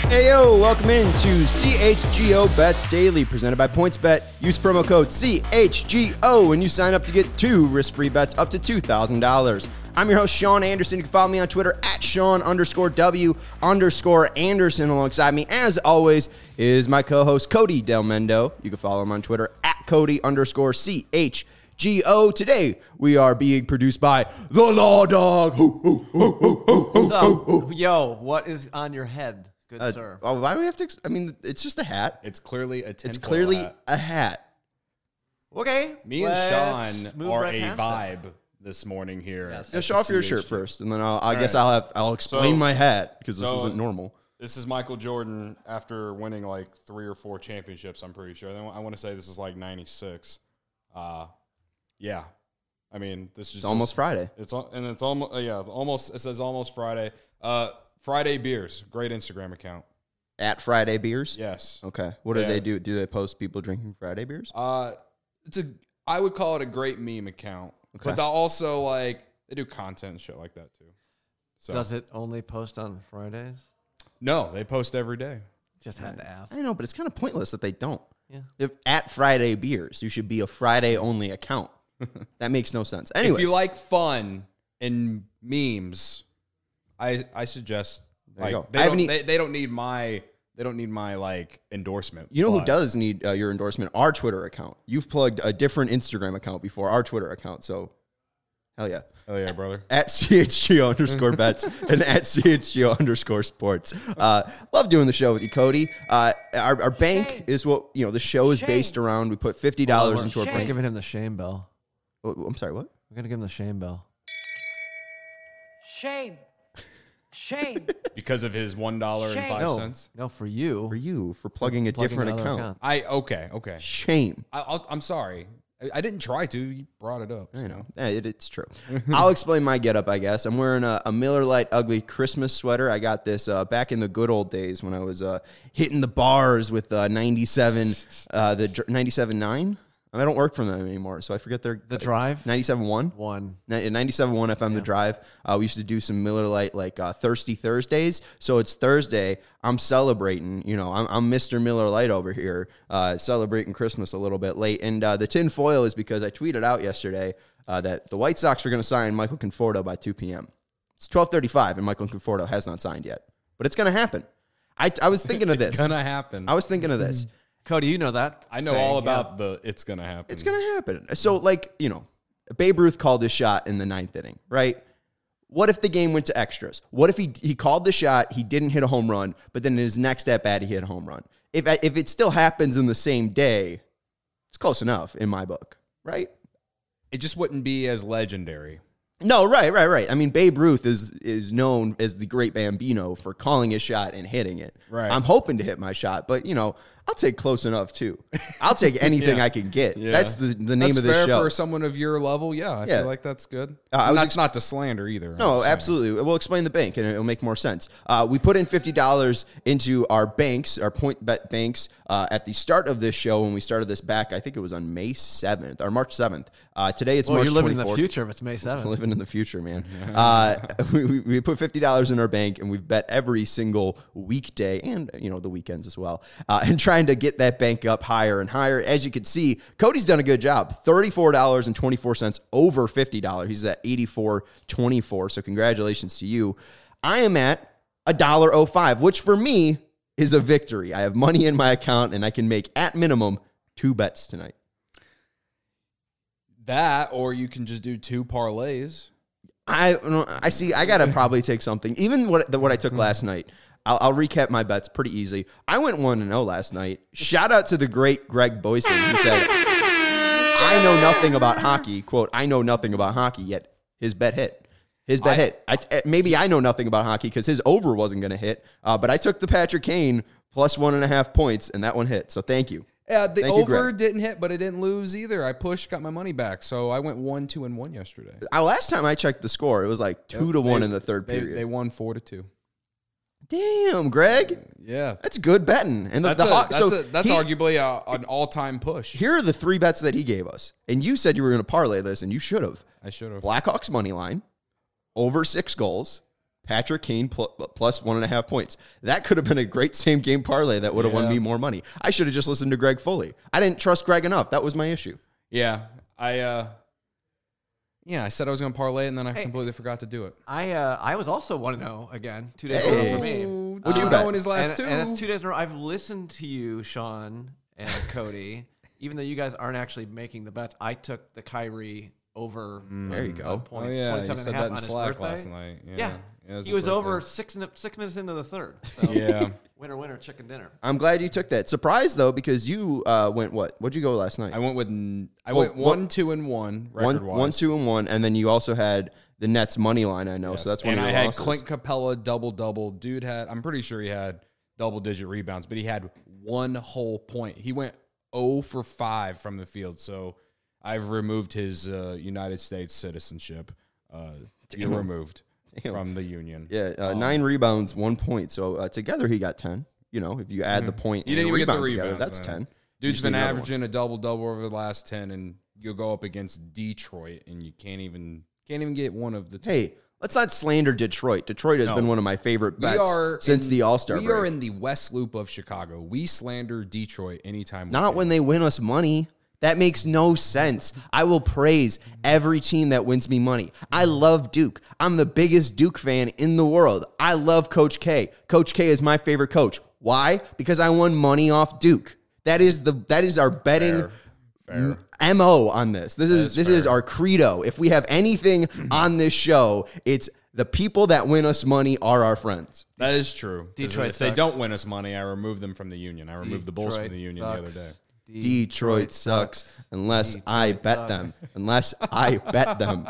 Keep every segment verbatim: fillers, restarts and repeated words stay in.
Hey yo, welcome into C H G O Bets Daily, presented by PointsBet. Use promo code C H G O when you sign up to get two risk-free bets up to two thousand dollars. I'm your host, Sean Anderson. You can follow me on Twitter at Sean underscore W underscore Anderson. Alongside me, as always, is my co-host, Cody Del Mendo. You can follow him on Twitter at Cody underscore C H G O. Today, we are being produced by The Law Dog. So, yo, what is on your head? Good Uh, sir. oh, why do we have to? ex- I mean, it's just a hat. It's clearly a tinfoil It's clearly hat. a hat. Okay. Me and let's Sean move are right a past vibe this morning here. Yes. at Now, show the off your C H shirt G. first, and then I'll, I All guess right. I'll have I'll explain So- my hat because this so- isn't normal. This is Michael Jordan after winning like three or four championships, I'm pretty sure. I want to say this is like ninety-six. Uh, yeah. I mean, this is It's almost just, Friday. It's al- and it's almost uh, yeah, almost it says almost Friday. Uh, Friday Beers, great Instagram account. At Friday Beers? Yes. Okay. What do Yeah. they do? Do they post people drinking Friday beers? Uh, it's a I would call it a great meme account, Okay. but they also like they do content and shit like that too. So Does it only post on Fridays? no, they post every day. Just had to ask. I know, but it's kind of pointless that they don't. Yeah. If at Friday Beers, you should be a Friday only account. That makes no sense. Anyways, If you like fun and memes, I I suggest There you like go. they I don't haven't e- they, they don't need my they don't need my like endorsement. you know who but- does need uh, your endorsement? Our Twitter account. You've plugged a different Instagram account before our Twitter account, so hell yeah. Oh yeah, brother. At C H G O underscore bets and at C H G O underscore sports. Uh, love doing the show with you, Cody. Uh, our, our bank Shame. is what, you know, the show is Shame. based around. We put fifty dollars We're- into our We're bank. giving him the shame bell. Oh, I'm sorry, what? We're going to give him the shame bell. Shame. Shame. Because of his one dollar and Shame. five No, cents. no, for you. For you, for plugging a Plugging different another account. I okay okay. Shame. I, I'll, I'm sorry. I, I didn't try to. You brought it up. I so. know. Eh, it, it's true. I'll explain my getup, I guess. I'm wearing a, a Miller Lite Ugly Christmas sweater. I got this uh, back in the good old days when I was uh, hitting the bars with uh, ninety-seven, uh, the ninety-seven nine. I don't work for them anymore, so I forget their The Drive? ninety-seven one. One. ninety-seven point one F M, The Drive. Uh, we used to do some Miller Lite, like uh, Thirsty Thursdays. So it's Thursday. I'm celebrating. You know, I'm, I'm Mister Miller Lite over here, uh, celebrating Christmas a little bit late. And uh, the tin foil is because I tweeted out yesterday uh, that the White Sox are going to sign Michael Conforto by two p.m. It's twelve thirty-five, and Michael Conforto has not signed yet. But it's going to happen. I, I was thinking of It's this. gonna happen. I was thinking of this. Cody, you know that. I know saying, all yeah. about the it's gonna happen. It's going to happen. So, like, you know, Babe Ruth called his shot in the ninth inning, right? What if the game went to extras? What if he he called the shot, he didn't hit a home run, but then in his next at bat, he hit a home run? If if it still happens in the same day, it's close enough in my book, right? It just wouldn't be as legendary. No, right, right, right. I mean, Babe Ruth is is known as the great Bambino for calling his shot and hitting it. Right. I'm hoping to hit my shot, but, you know, I'll take close enough, too. I'll take anything Yeah. I can get. Yeah. That's the, the name That's of this fair show. for someone of your level. Yeah, I Yeah. feel like that's good. Uh, I And was that's ex- not to slander either. I'm No, just saying. absolutely. We'll explain the bank, and it'll make more sense. Uh, we put in fifty dollars into our banks, our point bet banks, uh, at the start of this show when we started this back. I think it was on May seventh or March seventh. Uh, today it's Well, March you're living in twenty-fourth. the future if it's May seventh. Living in the future, man. Uh, we, we, we put fifty dollars in our bank, and we've bet every single weekday and, you know, the weekends as well, uh, and trying to get that bank up higher and higher. As you can see, Cody's done a good job. thirty-four dollars and twenty-four cents over fifty dollars. He's at eighty-four twenty-four, so congratulations to you. I am at one dollar oh five, which for me is a victory. I have money in my account, and I can make, at minimum, two bets tonight. That, or you can just do two parlays. I I see. I gotta probably take something. Even what the, what I took last night. I'll, I'll recap my bets pretty easy. I went one and zero last night. Shout out to the great Greg Boyson who said, "I know nothing about hockey." Quote: "I know nothing about hockey." Yet his bet hit. His bet I- hit. I, maybe I know nothing about hockey because his over wasn't going to hit. Uh, but I took the Patrick Kane plus one and a half points, and that one hit. So thank you. Yeah, the Thank you, over Greg. didn't hit, but it didn't lose either. I pushed, got my money back, so I went one, two, and one yesterday. Uh, last time I checked the score, it was like two to They- one in the third they, period. They won four to two. Damn, Greg. Yeah, That's good betting. And the, that's the a, Hawk- that's, so a, that's he- arguably a, an all-time push. Here are the three bets that he gave us. And you said you were going to parlay this, and you should have. I should have. Blackhawks money line, over six goals, Patrick Kane pl- plus one and a half points. That could have been a great same game parlay that would have Yeah. won me more money. I should have just listened to Greg Foley. I didn't trust Greg enough. That was my issue. Yeah, I uh, yeah, I said I was going to parlay it, and then I Hey. completely forgot to do it. I uh, I was also one and zero again, two days Hey. ago for me. What'd you Uh, bet? In his last and, two. and it's two days in a row. I've listened to you, Sean and Cody. Even though you guys aren't actually making the bets, I took the Kyrie over. There you go. on Points, oh, yeah, you twenty-seven said and a half that in on his Slack birthday. last night. Yeah, Yeah, Yeah, it was he his was over birthday. six in- six minutes into the third. So Yeah. winner, winner, chicken dinner. I'm glad you took that. Surprised though, because you uh, went what? What'd you go last night? I went with n- I Well, went what- one, two, and one record one, wise. one, two, and one, and then you also had the Nets money line. I know, so that's one and of I your had losses. Clint Capella double double. Dude had I'm pretty sure he had double digit rebounds, but he had one whole point. He went zero for five from the field. So I've removed his uh, United States citizenship. Uh, you're removed Damn. from the union. Yeah, uh, Um, nine rebounds, one point. So uh, together he got ten. You know, if you add the point, You and didn't a even get the rebound together, rebounds. that's then. ten. Dude's just been need another one. averaging a double double over the last ten, and you'll go up against Detroit, and you can't even can't even get one of the two. Hey, let's not slander Detroit. Detroit has No. been one of my favorite We bets are since in- the All Star We break. are in the West Loop of Chicago. We slander Detroit anytime. we Not can. when they win us money. That makes no sense. I will praise every team that wins me money. I love Duke. I'm the biggest Duke fan in the world. I love Coach K. Coach K is my favorite coach. Why? Because I won money off Duke. That is the that is our betting Fair. Fair. M O on this. This is is this is fair. our credo. If we have anything on this show, it's the people that win us money are our friends. That is true. 'Cause Detroit If they sucks. don't win us money, I remove them from the union. I removed the Bulls from Detroit the union sucks. the other day. Detroit sucks unless Detroit I bet sucks. them. Unless I bet them.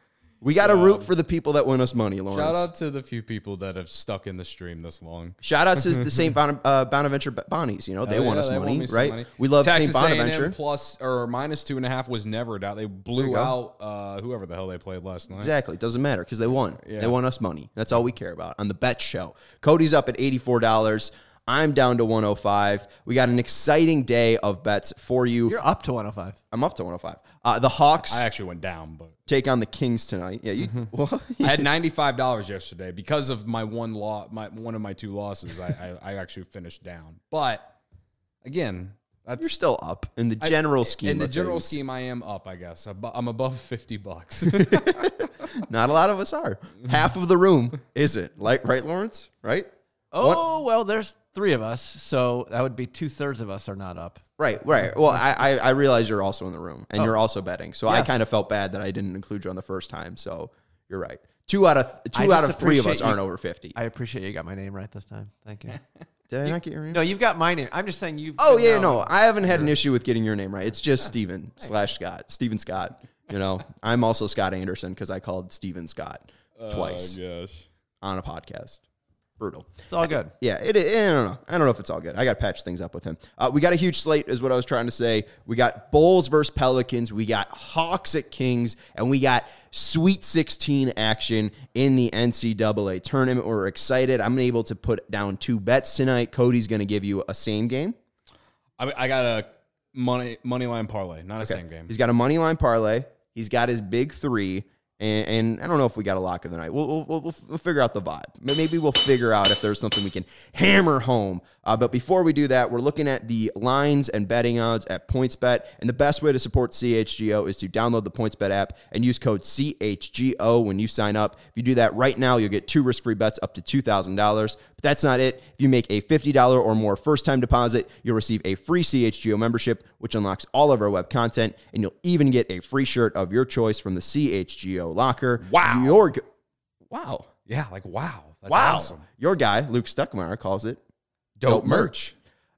We got to root for the people that win us money, Lawrence. Shout out to the few people that have stuck in the stream this long. Shout out to the Saint Bon- uh, Bonaventure Bonnies. You know, they Oh, won yeah, us they won money, me some right? money. We love Texas Saint A and M Bonaventure. plus or minus two and a half was never a doubt. They you blew go. out uh, whoever the hell they played last night. Exactly. It doesn't matter because they won. Yeah. They won us money. That's all we care about on the bet show. Cody's up at eighty-four dollars. I'm down to one oh five. We got an exciting day of bets for you. You're up to one oh five. I'm up to one oh five. Uh, the Hawks I actually went down, but take on the Kings tonight. Yeah, you. Well, I had ninety-five dollars yesterday because of my one law, my one of my two losses. I, I, I actually finished down, but again, that's you're still up in the I- general scheme. In the of general things. scheme, I am up. I guess Abo- I'm above fifty bucks. Not a lot of us are. Half of the room isn't. Like, right, Lawrence? Right? Oh, well, there's three of us, so that would be two thirds of us are not up. Right, right. Well, I, I, I realize you're also in the room and Oh. you're also betting. So I Yes. kind of felt bad that I didn't include you on the first time. So you're right. Two out of I two out just of three of us appreciate you- aren't over fifty. I appreciate you got my name right this time. Thank you. Did I not get your name? No, you've got my name. I'm just saying you've. Oh been yeah, known. no, I haven't had an issue with getting your name right. It's just Steven slash Scott. Steven Scott. You know, I'm also Scott Anderson because I called Steven Scott twice Gosh. on a podcast. Brutal. It's all good. Yeah, it, it, I don't know. I don't know if it's all good. I got to patch things up with him. Uh, we got a huge slate, is what I was trying to say. We got Bulls versus Pelicans. We got Hawks at Kings, and we got Sweet sixteen action in the N C double A tournament. We're excited. I'm able to put down two bets tonight. Cody's going to give you a same game. I, I got a money money line parlay, not a Okay. same game. He's got a money line parlay. He's got his big three. And, and I don't know if we got a lock of the night. We'll, we'll, we'll, we'll figure out the vibe. Maybe we'll figure out if there's something we can hammer home. Uh, but before we do that, we're looking at the lines and betting odds at PointsBet. And the best way to support C H G O is to download the PointsBet app and use code C H G O when you sign up. If you do that right now, you'll get two risk-free bets up to two thousand dollars. But that's not it. If you make a fifty dollars or more first-time deposit, you'll receive a free C H G O membership, which unlocks all of our web content. And you'll even get a free shirt of your choice from the C H G O locker. Wow. Your, g- wow. Yeah, like wow, that's Wow. awesome. Your guy, Luke Stuckmeyer, calls it Dope, Dope merch.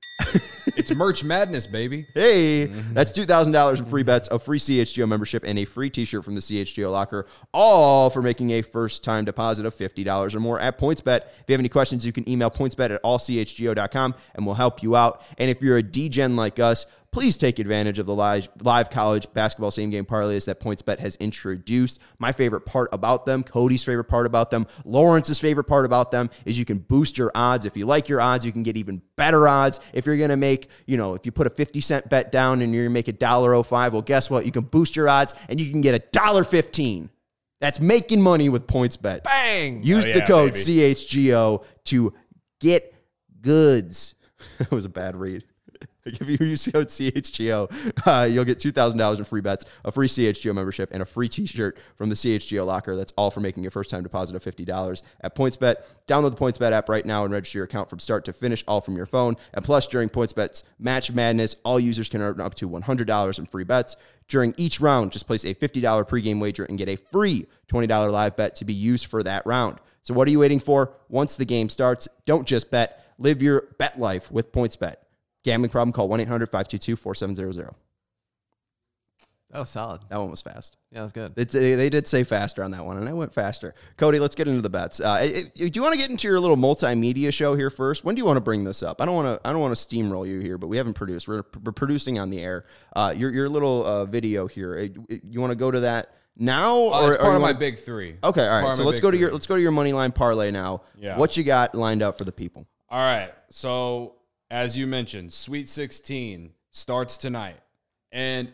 It's merch madness, baby. Hey, that's two thousand dollars in free bets, a free C H G O membership, and a free t-shirt from the C H G O locker, all for making a first-time deposit of fifty dollars or more at PointsBet. If you have any questions, you can email pointsbet at all c h g o dot com, and we'll help you out. And if you're a D-Gen like us, please take advantage of the live, live college basketball same-game parlays that PointsBet has introduced. My favorite part about them, Cody's favorite part about them, Lawrence's favorite part about them is you can boost your odds. If you like your odds, you can get even better odds. If you're going to make, you know, if you put a fifty cent bet down and you're going to make a one dollar oh five, well, guess what? You can boost your odds and you can get a one dollar fifteen. That's making money with PointsBet. Bang! Use Oh, the yeah, code baby. C H G O to get goods. That was a bad read. If you use code C H G O, uh, you'll get two thousand dollars in free bets, a free C H G O membership, and a free t-shirt from the C H G O locker. That's all for making your first-time deposit of fifty dollars at PointsBet. Download the PointsBet app right now and register your account from start to finish, all from your phone. And plus, during PointsBet's Match Madness, all users can earn up to one hundred dollars in free bets. During each round, just place a fifty dollars pregame wager and get a free twenty dollars live bet to be used for that round. So what are you waiting for? Once the game starts, don't just bet. Live your bet life with PointsBet. Gambling problem? Call one eight hundred five two two four seven zero zero. That was solid. That one was fast. Yeah, that was good. It's, they did say faster on that one, and I went faster. Cody, let's get into the bets. Uh, it, it- do you want to get into your little multimedia show here first? When do you want to bring this up? I don't want to. I don't want to steamroll you here, but we haven't produced. We're, we're producing on the air. Uh, your your little uh, video here. Uh, You want to go to that now, Uh, or it's or part you of my wanna- big three. Okay, It's all part right. of So my let's big go to three. your let's go to your money line parlay now. Yeah. What you got lined up for the people? All right. So, as you mentioned, Sweet sixteen starts tonight. And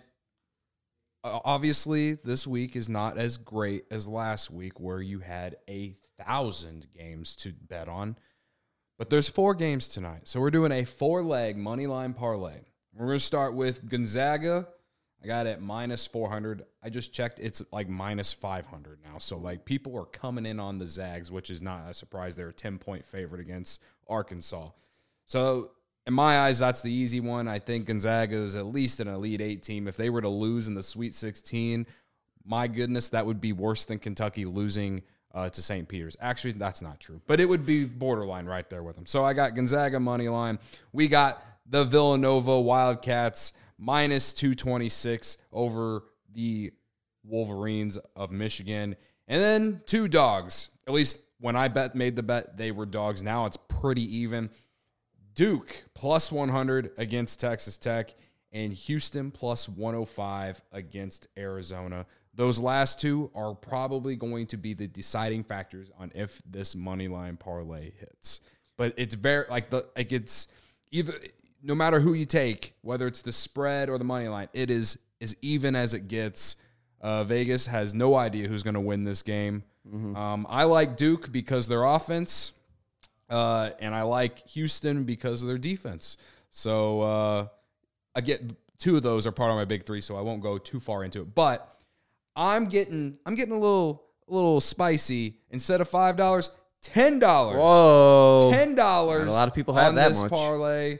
uh, obviously, this week is not as great as last week where you had a thousand games to bet on. But there's four games tonight. So, we're doing a four-leg money line parlay. We're going to start with Gonzaga. I got it at minus four hundred. I just checked. It's like minus five hundred now. So, like, people are coming in on the Zags, which is not a surprise. They're a ten-point favorite against Arkansas. So, in my eyes, that's the easy one. I think Gonzaga is at least an Elite Eight team. If they were to lose in the Sweet sixteen, my goodness, that would be worse than Kentucky losing uh, to Saint Peter's. Actually, that's not true. But it would be borderline right there with them. So, I got Gonzaga money line. We got the Villanova Wildcats minus two twenty-six over the Wolverines of Michigan. And then two dogs. At least when I bet made the bet, they were dogs. Now it's pretty even. Duke plus one hundred against Texas Tech, and Houston plus one oh five against Arizona. Those last two are probably going to be the deciding factors on if this money line parlay hits. But it's very like the like it's either no matter who you take, whether it's the spread or the money line, it is as even as it gets. Uh, Vegas has no idea who's going to win this game. Mm-hmm. Um, I like Duke because their offense. Uh, and I like Houston because of their defense. So uh, I get two of those are part of my big three, so I won't go too far into it. But I'm getting I'm getting a little a little spicy. Instead of five dollars, ten dollars. Whoa, Ten dollars. Not a lot of people have on that this much. parlay.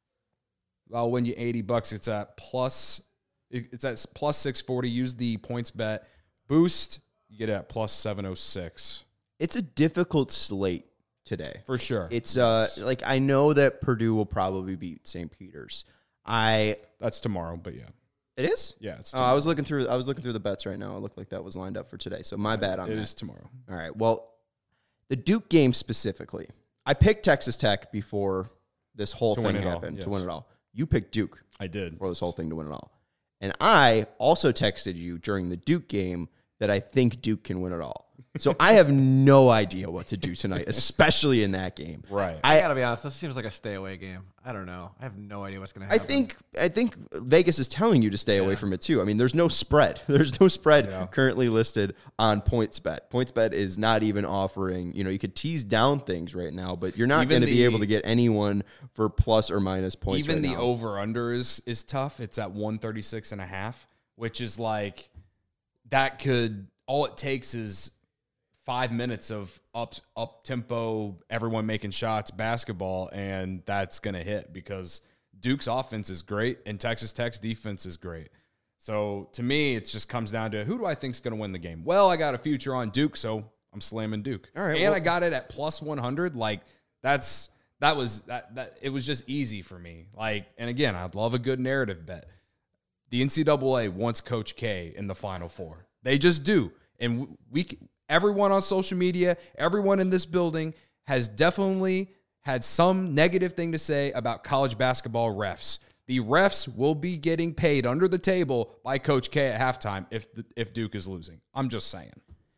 I'll win you eighty bucks. It's at plus. It's at plus six forty. Use the points bet boost. You get it at plus seven oh six. It's a difficult slate today. For sure. It's uh Yes. like I know that Purdue will probably beat Saint Peter's. I That's tomorrow, but yeah. it is? Yeah, it's Oh, tomorrow. I was looking through I was looking through the bets right now. It looked like that was lined up for today. So my bad on It that. is tomorrow. All right. Well, the Duke game specifically. I picked Texas Tech before this whole To thing win it all, happened yes. to win it all. You picked Duke I did. for this whole thing to win it all. And I also texted you during the Duke game that I think Duke can win it all. So I have no idea what to do tonight, especially in that game. Right. I I gotta be honest. This seems like a stay away game. I don't know. I have no idea what's gonna I happen. think I think Vegas is telling you to stay away Yeah. from it too. I mean, there's no spread. There's no spread Yeah. currently listed on PointsBet. PointsBet is not even offering, you know, you could tease down things right now, but you're not Even going to be the- able to get anyone for plus or minus points Even right the now. over under is is tough. It's at one thirty-six and a half, which is like that could all it takes is five minutes of up up tempo, everyone making shots, basketball, and that's gonna hit because Duke's offense is great and Texas Tech's defense is great. So to me, it just comes down to who do I think is gonna win the game? Well, I got a future on Duke, so I'm slamming Duke. All right, and well- I got it at plus one hundred. Like that's that was that that it was just easy for me. Like, and again, I'd love a good narrative bet. The N C double A wants Coach K in the Final Four. They just do. And we, everyone on social media, everyone in this building has definitely had some negative thing to say about college basketball refs. The refs will be getting paid under the table by Coach K at halftime if if Duke is losing. I'm just saying.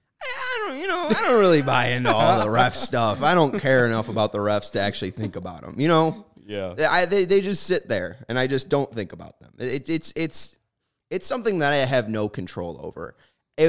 I don't, you know, I don't really buy into all the ref stuff. I don't care enough about the refs to actually think about them. You know, Yeah. I, they they just sit there, and I just don't think about them. It, it's it's it's something that I have no control over. If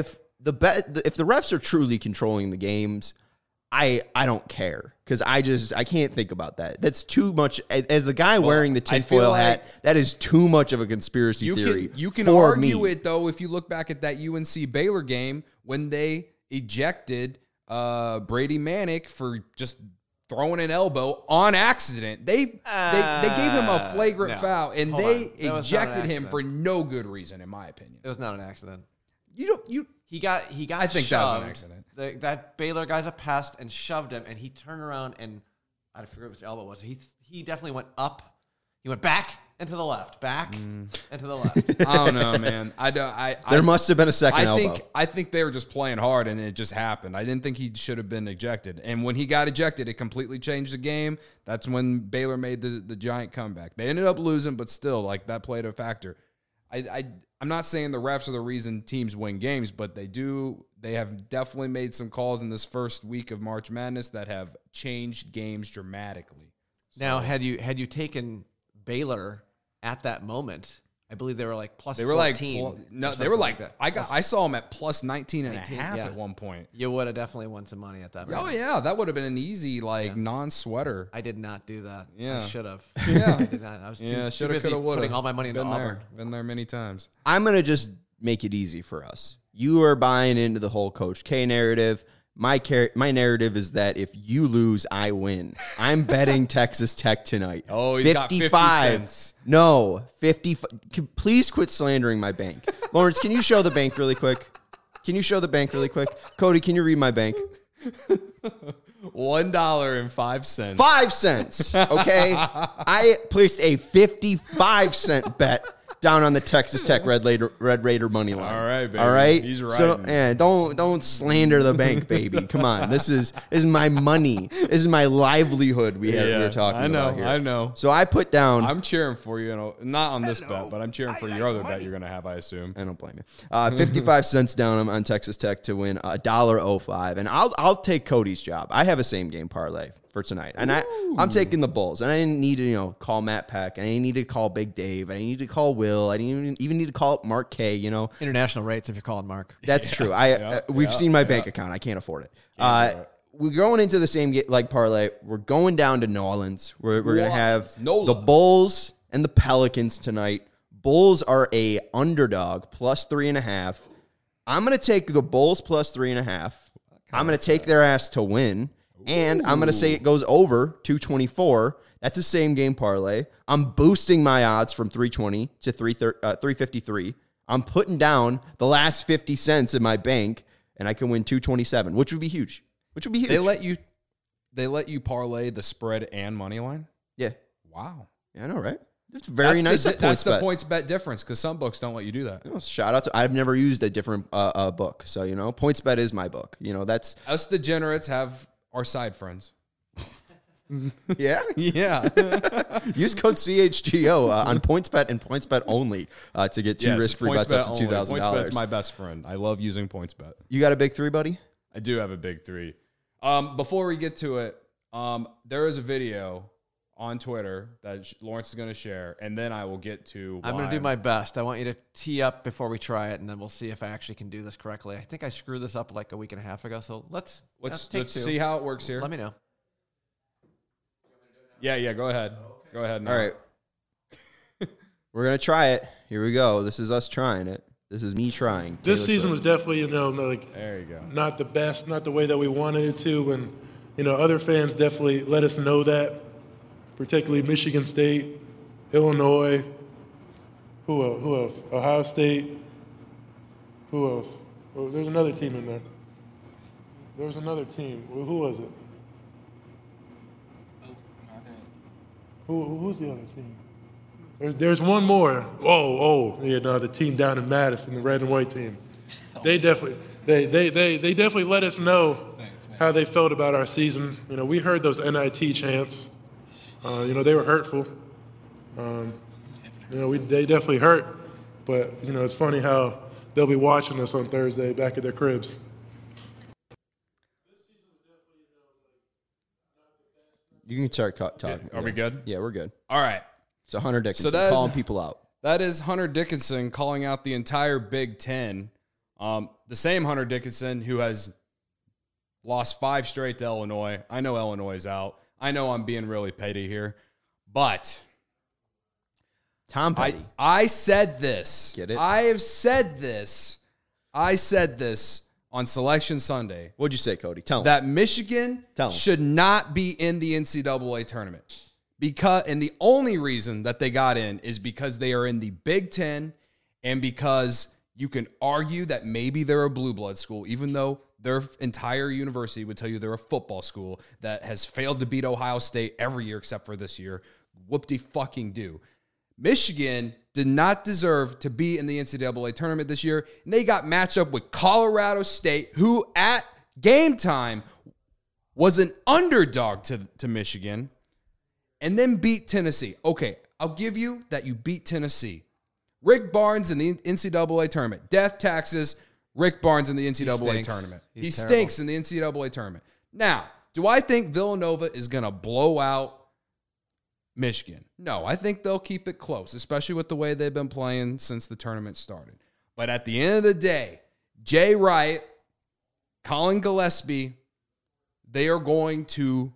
the bet if the refs are truly controlling the games, I I don't care because I just I can't think about that. That's too much. As the guy Well, wearing the I feel tinfoil like hat, that is too much of a conspiracy You theory. can you can for argue me. it though if you look back at that U N C Baylor game when they ejected uh, Brady Manick for just throwing an elbow on accident. They they, they gave him a flagrant no. foul and Hold they on. That was not an ejected him accident. for no good reason, in my opinion. It was not an accident. You don't you He got he got I think shoved. that was an accident. The, that Baylor guy's a pest and shoved him, and he turned around and I forget which elbow it was. He he definitely went up. He went back and to the left, back and to the left. I don't know, man. I don't. I There I, must have been a second I elbow. think I think they were just playing hard and it just happened. I didn't think he should have been ejected. And when he got ejected, it completely changed the game. That's when Baylor made the the giant comeback. They ended up losing, but still, like that played a factor. I, I I'm not saying the refs are the reason teams win games, but they do. They have definitely made some calls in this first week of March Madness that have changed games dramatically. Now, had you had you taken Baylor at that moment, I believe they were like plus They were like fourteen. pl- or no, they something were like that. I got I saw them at plus nineteen and a nineteen, half yeah. at one point. You would have definitely won some money at that point. Oh yeah, that would have been an easy like Yeah. non-sweater. I did not do that. Yeah. I should have. Yeah. I did not. I was too, Yeah, too shoulda, busy coulda, woulda. putting all my money into Been Auburn. there, been there many times. I'm going to just make it easy for us. You are buying into the whole Coach K narrative. My car- my narrative is that if you lose, I win. I'm betting Texas Tech tonight. Oh, he's got fifty cents. No, fifty. Please quit slandering my bank. Lawrence, can you show the bank really quick? Can you show the bank really quick? Cody, can you read my bank? One dollar and five cents. Five cents. Okay. I placed a fifty-five cent bet down on the Texas Tech Red Raider, Red Raider money line. All right, baby. All right. He's So riding. yeah, don't don't slander the bank, baby. Come on. This is this is my money. This is my livelihood. We have we Yeah, were talking I know, about here. I know. So I put down. I'm cheering for you, know, not on this bet, but I'm cheering for your other bet you're gonna have, I assume. I don't blame you. Uh, fifty-five cents down on, on Texas Tech to win a dollar oh five, and I'll I'll take Cody's job. I have a same game parlay for tonight, and I I'm taking the Bulls. And I didn't need to you know call Matt Peck. I didn't need to call Big Dave. I didn't need to call Will. I didn't even, even need to call Mark K. You know International rates if you're calling Mark. that's true. I yeah, uh, we've yeah, seen my yeah. bank account. I can't afford it. do Uh, it. we're going into the same ga- like parlay. We're going down to New Orleans. We're we're gonna have Nola. the Bulls and the Pelicans tonight. Bulls are a underdog plus three and a half. I'm gonna take the Bulls plus three and a half. I'm gonna take their ass to win, and I'm gonna say it goes over two twenty-four. That's a same game parlay. I'm boosting my odds from three twenty to three fifty-three. I'm putting down the last fifty cents in my bank, and I can win two twenty-seven, which would be huge. Which would be huge. They let you they let you parlay the spread and money line? yeah, Wow. yeah, I know, right? It's very that's nice. The, at that's points the bet. points bet difference because some books don't let you do that. Well, shout out to I've never used a different uh, uh, book, so you know, PointsBet is my book. You know, that's Us degenerates have our side friends. yeah. Yeah. Use code C H G O uh, on PointsBet and PointsBet only uh, to get two Yes, risk-free bets up to PointsBet two only. thousand PointsBet's dollars. my best friend. I love using PointsBet. You got a big three, buddy? I do have a big three. Um, before we get to it, um, there is a video on Twitter that sh- Lawrence is going to share, and then I will get to. I'm why going to do my best. I want you to tee up before we try it, and then we'll see if I actually can do this correctly. I think I screwed this up like a week and a half ago, so let's Let's, let's take let's two. see how it works here. Let me know. Yeah, yeah. Go ahead. Go ahead. Now. All right. We're going to try it. Here we go. This is us trying it. This is me trying. This Taylor season was Swift. definitely, you know, like There you go. not the best, not the way that we wanted it to, and you know, other fans definitely let us know that, particularly Michigan State, Illinois, who else? Who else? Ohio State. Who else? Oh, there's another team in there. There was another team. Who who was it? Who, who's the other team? There's, there's one more. Oh, oh, yeah, no, the team down in Madison, the red and white team. They definitely, they, they, they, they definitely let us know how they felt about our season. You know, we heard those N I T chants. Uh, you know, they were hurtful. Um, you know, we, they definitely hurt. But, you know, it's funny how they'll be watching us on Thursday back at their cribs. You can start ca- talking. Are we good? Yeah, we're good. All right. So Hunter Dickinson that is- calling people out. That is Hunter Dickinson calling out the entire Big Ten Um, the same Hunter Dickinson who has lost five straight to Illinois. I know Illinois is out. I know I'm being really petty here, but Tom I, Petty. I said this. Get it? I have said this. I said this on Selection Sunday. What'd you say, Cody? Tell me. That Michigan Tell 'em. should not be in the N C double A tournament. Because and the only reason that they got in is because they are in the Big Ten and because you can argue that maybe they're a blue blood school, even though their entire university would tell you they're a football school that has failed to beat Ohio State every year except for this year. Whoop-de-fucking-do. Michigan did not deserve to be in the N C double A tournament this year, and they got matched up with Colorado State, who at game time was an underdog to, to Michigan, and then beat Tennessee. Okay, I'll give you that you beat Tennessee. Rick Barnes in the N C double A tournament. Death taxes, Rick Barnes in the N C double A stinks. tournament. He's he terrible. stinks in the N C double A tournament. Now, do I think Villanova is going to blow out Michigan? No, I think they'll keep it close, especially with the way they've been playing since the tournament started. But at the end of the day, Jay Wright, Colin Gillespie, they are going to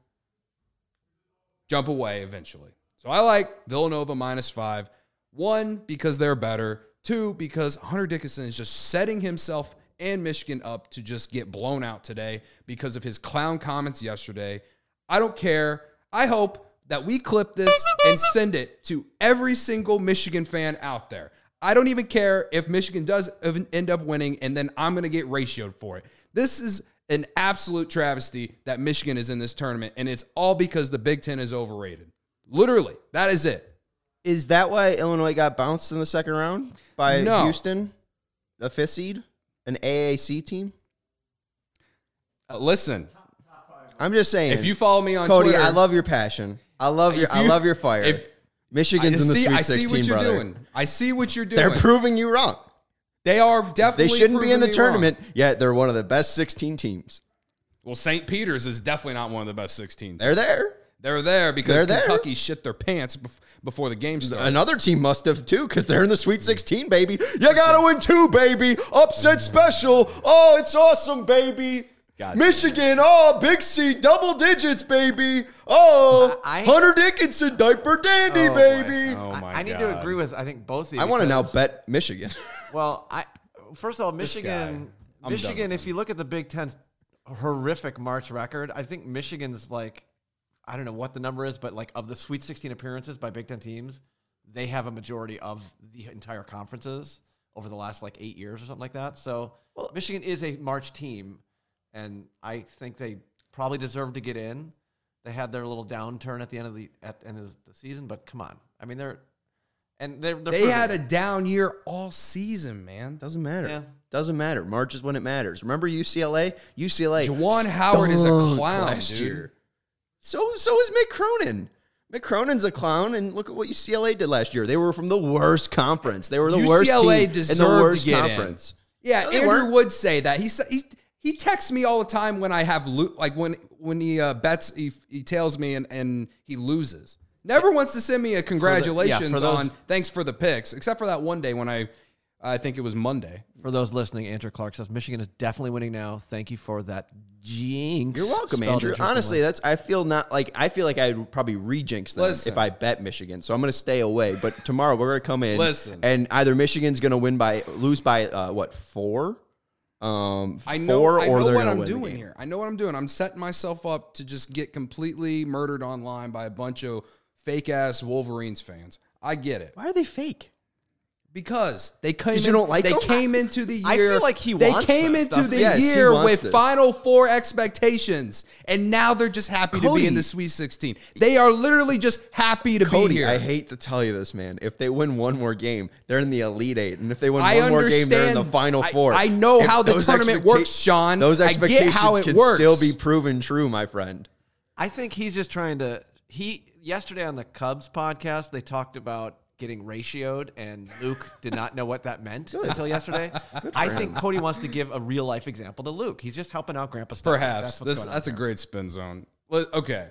jump away eventually. So I like Villanova minus five. One, because they're better. Two, because Hunter Dickinson is just setting himself and Michigan up to just get blown out today because of his clown comments yesterday. I don't care. I hope that we clip this and send it to every single Michigan fan out there. I don't even care if Michigan does end up winning and then I'm going to get ratioed for it. This is an absolute travesty that Michigan is in this tournament, and it's all because the Big Ten is overrated. Literally, that is it. Is that why Illinois got bounced in the second round by No. Houston, a fifth seed, an A A C team? Uh, listen, I'm just saying. if you follow me on Cody, Twitter, I love your passion. I love your. If I you- love your fire. if- Michigan's I in the see, Sweet I see sixteen, what you're brother. doing. I see what you're doing. They're proving you wrong. They are definitely. They shouldn't be in the proving me wrong. tournament, yet they're one of the best sixteen teams. Well, Saint Peter's is definitely not one of the best sixteen. They're there. They're there because They're there. Kentucky shit their pants bef- before the game started. Another team must have too, because they're in the Sweet sixteen, baby. You gotta win two, baby. Upset special. Oh, it's awesome, baby. Gotcha. Michigan, oh, big C, double digits, baby. Oh, I- I- Hunter Dickinson, diaper dandy, Oh, boy. baby. Oh I, my I need God. to agree with, I think, both of you. I want to now because- bet Michigan. Well, I first of all, Michigan, guy. I'm done Michigan. with If you look at the Big Ten's horrific March record, I think Michigan's like, I don't know what the number is, but like of the Sweet sixteen appearances by Big Ten teams, they have a majority of the entire conferences over the last like eight years or something like that. So Michigan is a March team, and I think they probably deserve to get in. They had their little downturn at the end of the at the end of the season, but come on, I mean they're and they're, they're They proving had a it. down year all season, man. Doesn't matter. Yeah. Doesn't matter. March is when it matters. Remember U C L A? U C L A. Juwan Howard is a stunk clown, last dude. year. So so is Mick Cronin. Mick Cronin's a clown, and look at what U C L A did last year. They were from the worst conference. They were the worst U C L A team in deserved the to worst get in. conference. Yeah, No, they Andrew weren't. would say that. He sa- he he texts me all the time when I have lo- like when when he uh, bets he he tells me and, and he loses. Never wants to send me a congratulations for those- on thanks for the picks, except for that one day when I I think it was Monday. For those listening, Andrew Clark says Michigan is definitely winning now. Thank you for that jinx. You're welcome, Spelled Andrew. interestingly. Honestly, that's I feel not like I feel like I'd probably rejinx them Listen. if I bet Michigan. So I'm going to stay away. But tomorrow we're going to come in, Listen. and either Michigan's going to win by lose by uh, what four, um, I know, four, I or know they're what gonna I'm win the doing game. here. I know what I'm doing. I'm setting myself up to just get completely murdered online by a bunch of fake ass Wolverines fans. I get it. Why are they fake? Because they came, 'Cause you in- don't like they them? came into the year. I feel like he They wants came this, into doesn't the he? Yes, he year wants with this. Final Four expectations, and now they're just happy to be Cody. in the Sweet sixteen. They are literally just happy to Cody, be here. I hate to tell you this, man. If they win one more game, they're in the Elite Eight, and if they win I one more game, they're in the understand- Final I- Four. I know If how the those tournament expecta- works, Sean. Those I get expectations how it can works. still be proven true, my friend. I think he's just trying to. He yesterday on the Cubs podcast, they talked about getting ratioed, and Luke did not know what that meant until yesterday. I think Cody wants to give a real life example to Luke. He's just helping out Grandpa Stone. Perhaps That's, what's this going on that's a there. great spin zone. Let- Okay,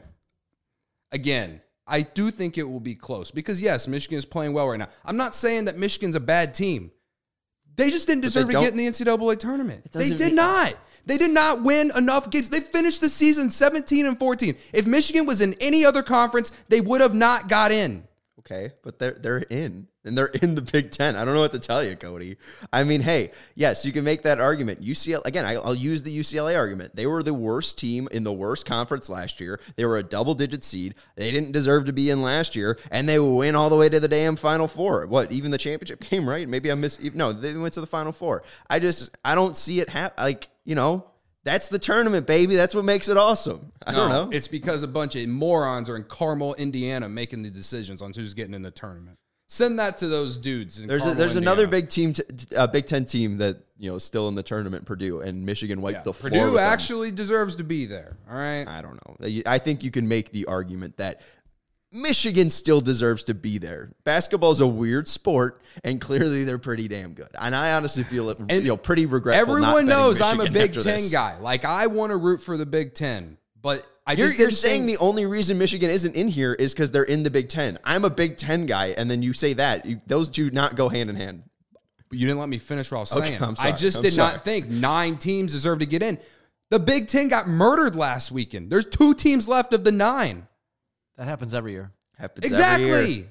again, I do think it will be close because yes, Michigan is playing well right now. I'm not saying that Michigan's a bad team. They just didn't deserve to don't- get in the N C double A tournament. They doesn't did mean- not. They did not win enough games. They finished the season seventeen and fourteen. If Michigan was in any other conference, they would have not got in. Okay, but they're they're in, and they're in the Big Ten. I don't know what to tell you, Cody. I mean, hey, yes, you can make that argument. U C L A, again, I, I'll use the U C L A argument. They were the worst team in the worst conference last year. They were a double-digit seed. They didn't deserve to be in last year, and they win all the way to the damn Final Four. What, even the championship game, right? Maybe I missed. No, they went to the Final Four. I just, I don't see it happen. Like, you know, that's the tournament, baby. That's what makes it awesome. I don't know. It's because a bunch of morons are in Carmel, Indiana, making the decisions on who's getting in the tournament. Send that to those dudes. In There's a, Carmel, there's Indiana. another big team, t- uh, Big Ten team that you know is still in the tournament, Purdue, and Michigan wiped Yeah, the floor. Purdue with them. actually deserves to be there. All right. I don't know. I think you can make the argument that Michigan still deserves to be there. Basketball is a weird sport, and clearly they're pretty damn good. And I honestly feel it, you know, pretty regretful. not Everyone betting knows I'm a Michigan Big after Ten this. guy. Like, I want to root for the Big Ten, but I You're, just you're didn't saying think- the only reason Michigan isn't in here is because they're in the Big Ten. I'm a Big Ten guy, and then you say that. You, those two not go hand in hand. But you didn't let me finish what I was Okay, saying. I'm sorry. I just I'm did sorry. not think nine teams deserve to get in. The Big Ten got murdered last weekend. There's two teams left of the nine. That happens every year. Happens every year. Exactly.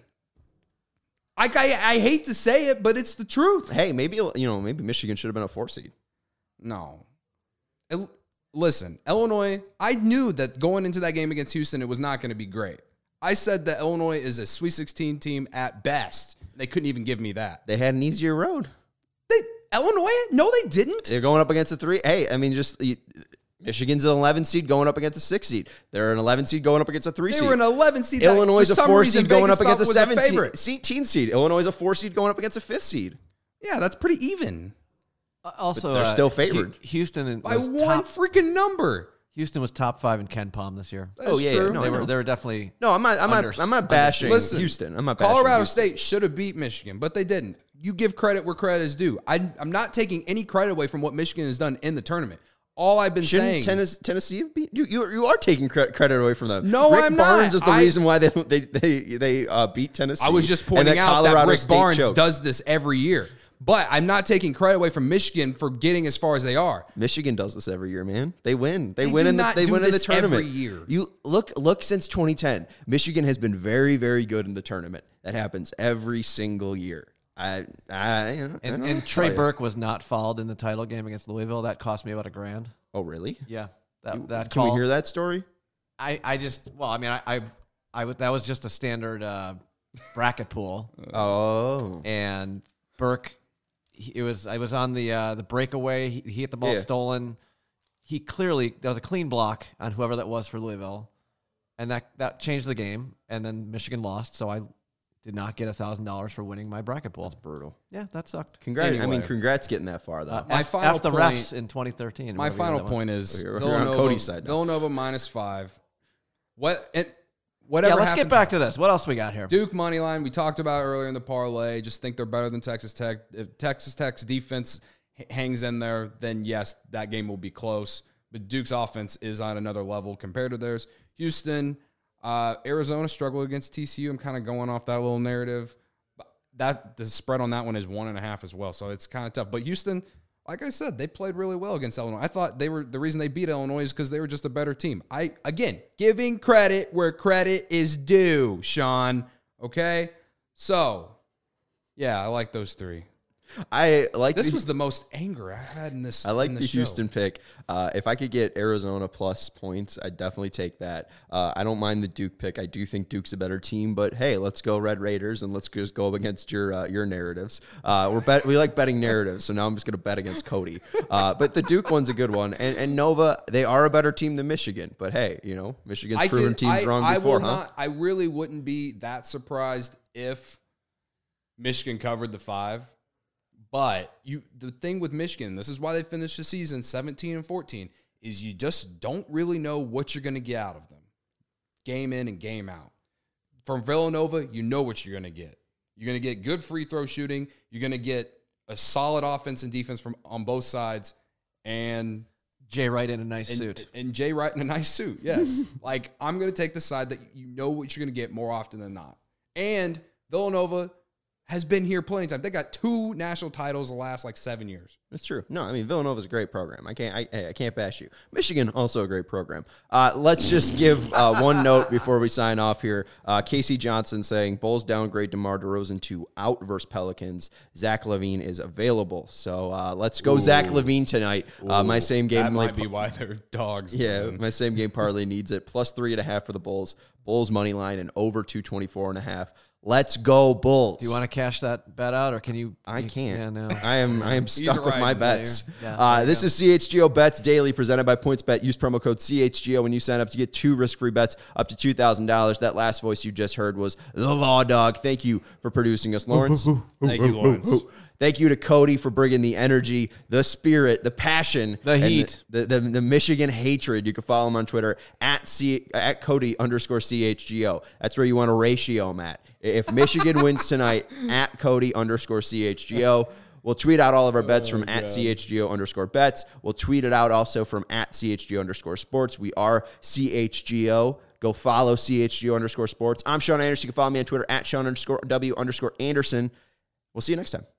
I, I I hate to say it, but it's the truth. Hey, maybe you know, maybe Michigan should have been a four seed. No. El- Listen, Illinois, I knew that going into that game against Houston, it was not going to be great. I said that Illinois is a Sweet sixteen team at best. They couldn't even give me that. They had an easier road. They, Illinois? No, they didn't. They're going up against a three. Hey, I mean, just you, Michigan's an eleven seed going up against a six seed. They're an eleven seed going up against a three They seed. were an eleven seed. that, Illinois is for a some four reason, seed going Vegas up against a thought was seventeen favorite. seed. Illinois is a four seed going up against a fifth seed. Yeah, that's pretty even. Uh, also, they're uh, still favored. Hu- Houston By was one top, freaking number. Houston was top five in Ken Palm this year. That's Oh, yeah, true. yeah, no, they I were know. they were definitely No, I'm not. I'm Under- not. I'm not bashing Listen, Houston. I'm not bashing Colorado Houston. State should have beat Michigan, but they didn't. You give credit where credit is due. I, I'm not taking any credit away from what Michigan has done in the tournament. All I've been Shouldn't saying, Tennessee, Tennessee have beat you? You, you are taking cre- credit away from them. No, Rick I'm Barnes not. is the I- reason why they they they, they uh, beat Tennessee. I was just and pointing out that Colorado Rick State Barnes choked. does this every year. But I'm not taking credit away from Michigan for getting as far as they are. Michigan does this every year, man. They win. They, They win do in the not they do win in the this tournament every year. You look look since twenty ten. Michigan has been very very good in the tournament. That happens every single year. I I, you know, I and, don't know and what to Trey tell you. Burke was not fouled in the title game against Louisville. That cost me about a grand. Oh really? Yeah, that that Can call. we hear that story? I, I just well, I mean, I I, I would- that was just a standard uh, bracket pool, Oh, and Burke, he, it was I was on the uh, the breakaway. He, he hit the ball Yeah. stolen. He clearly there was a clean block on whoever that was for Louisville, and that that changed the game. And then Michigan lost, so I did not get a thousand dollars for winning my bracket pool. that's brutal. Yeah, that sucked. Congrats! I mean, Anyway. congrats getting that far though. Uh, My F, final F the point- refs in twenty thirteen. My whatever year final that was. point is You're- you're on Villanova, Cody's side now. Villanova minus five. What it, whatever. Yeah, let's happens, get back to this. What else we got here? Duke money line. We talked about earlier in the parlay. Just think they're better than Texas Tech. If Texas Tech's defense h- hangs in there, then yes, that game will be close. But Duke's offense is on another level compared to theirs. Houston, uh, Arizona struggled against T C U. I'm kind of going off that little narrative. That the spread on that one is one and a half as well, so it's kind of tough. But Houston, like I said, they played really well against Illinois. I thought they were the reason they beat Illinois is because they were just a better team. I again giving credit where credit is due, Sean. Okay, so yeah, I like those three. I like This the, was the most anger I've had in this. I like in the this show. Houston pick. Uh, if I could get Arizona plus points, I'd definitely take that. Uh, I don't mind the Duke pick. I do think Duke's a better team, but hey, let's go Red Raiders and let's just go up against your uh, your narratives. Uh, we're bet we like betting narratives, so now I'm just going to bet against Cody. Uh, but the Duke one's a good one, and, and Nova, they are a better team than Michigan. But hey, you know Michigan's I proven could- teams I, wrong I before, will huh? Not, I really wouldn't be that surprised if Michigan covered the five. But you, the thing with Michigan, this is why they finished the season seventeen and fourteen, is you just don't really know what you're going to get out of them, game in and game out. From Villanova, you know what you're going to get. You're going to get good free throw shooting. You're going to get a solid offense and defense from on both sides, and Jay Wright in a nice and, suit. and Jay Wright in a nice suit. Yes, like I'm going to take the side that you know what you're going to get more often than not. And Villanova, has been here plenty of times. They got two national titles the last like seven years. That's true. No, I mean Villanova's a great program. I can't. I, I can't bash you. Michigan also a great program. Uh, let's just give uh, one note before we sign off here. Uh, Casey Johnson saying Bulls downgrade DeMar DeRozan to out versus Pelicans. Zach LaVine is available. So uh, let's go Ooh. Zach LaVine tonight. Uh, my same game that might like, be why they're dogs. Yeah, man. my same game parlay needs it. Plus three and a half for the Bulls. Bulls money line and over two twenty four and a half. Let's go Bulls. Do you want to cash that bet out, or can you? I you, can't. Yeah, no. I am. I am stuck with my bets. Yeah, uh, this go. is C H G O Bets Daily, presented by PointsBet. Use promo code C H G O when you sign up to get two risk-free bets up to two thousand dollars. That last voice you just heard was the Law Dog. Thank you for producing us, Lawrence. Thank you, Lawrence. Thank you to Cody for bringing the energy, the spirit, the passion, the heat, the, the, the, the Michigan hatred. You can follow him on Twitter at C at Cody underscore C H G O. That's where you want to ratio him at. If Michigan wins tonight, at Cody underscore C H G O. We'll tweet out all of our bets oh, from God. at C H G O underscore bets. We'll tweet it out also from at C H G O underscore sports. We are C H G O. Go follow C H G O underscore sports. I'm Sean Anderson. You can follow me on Twitter at Sean underscore W underscore Anderson. We'll see you next time.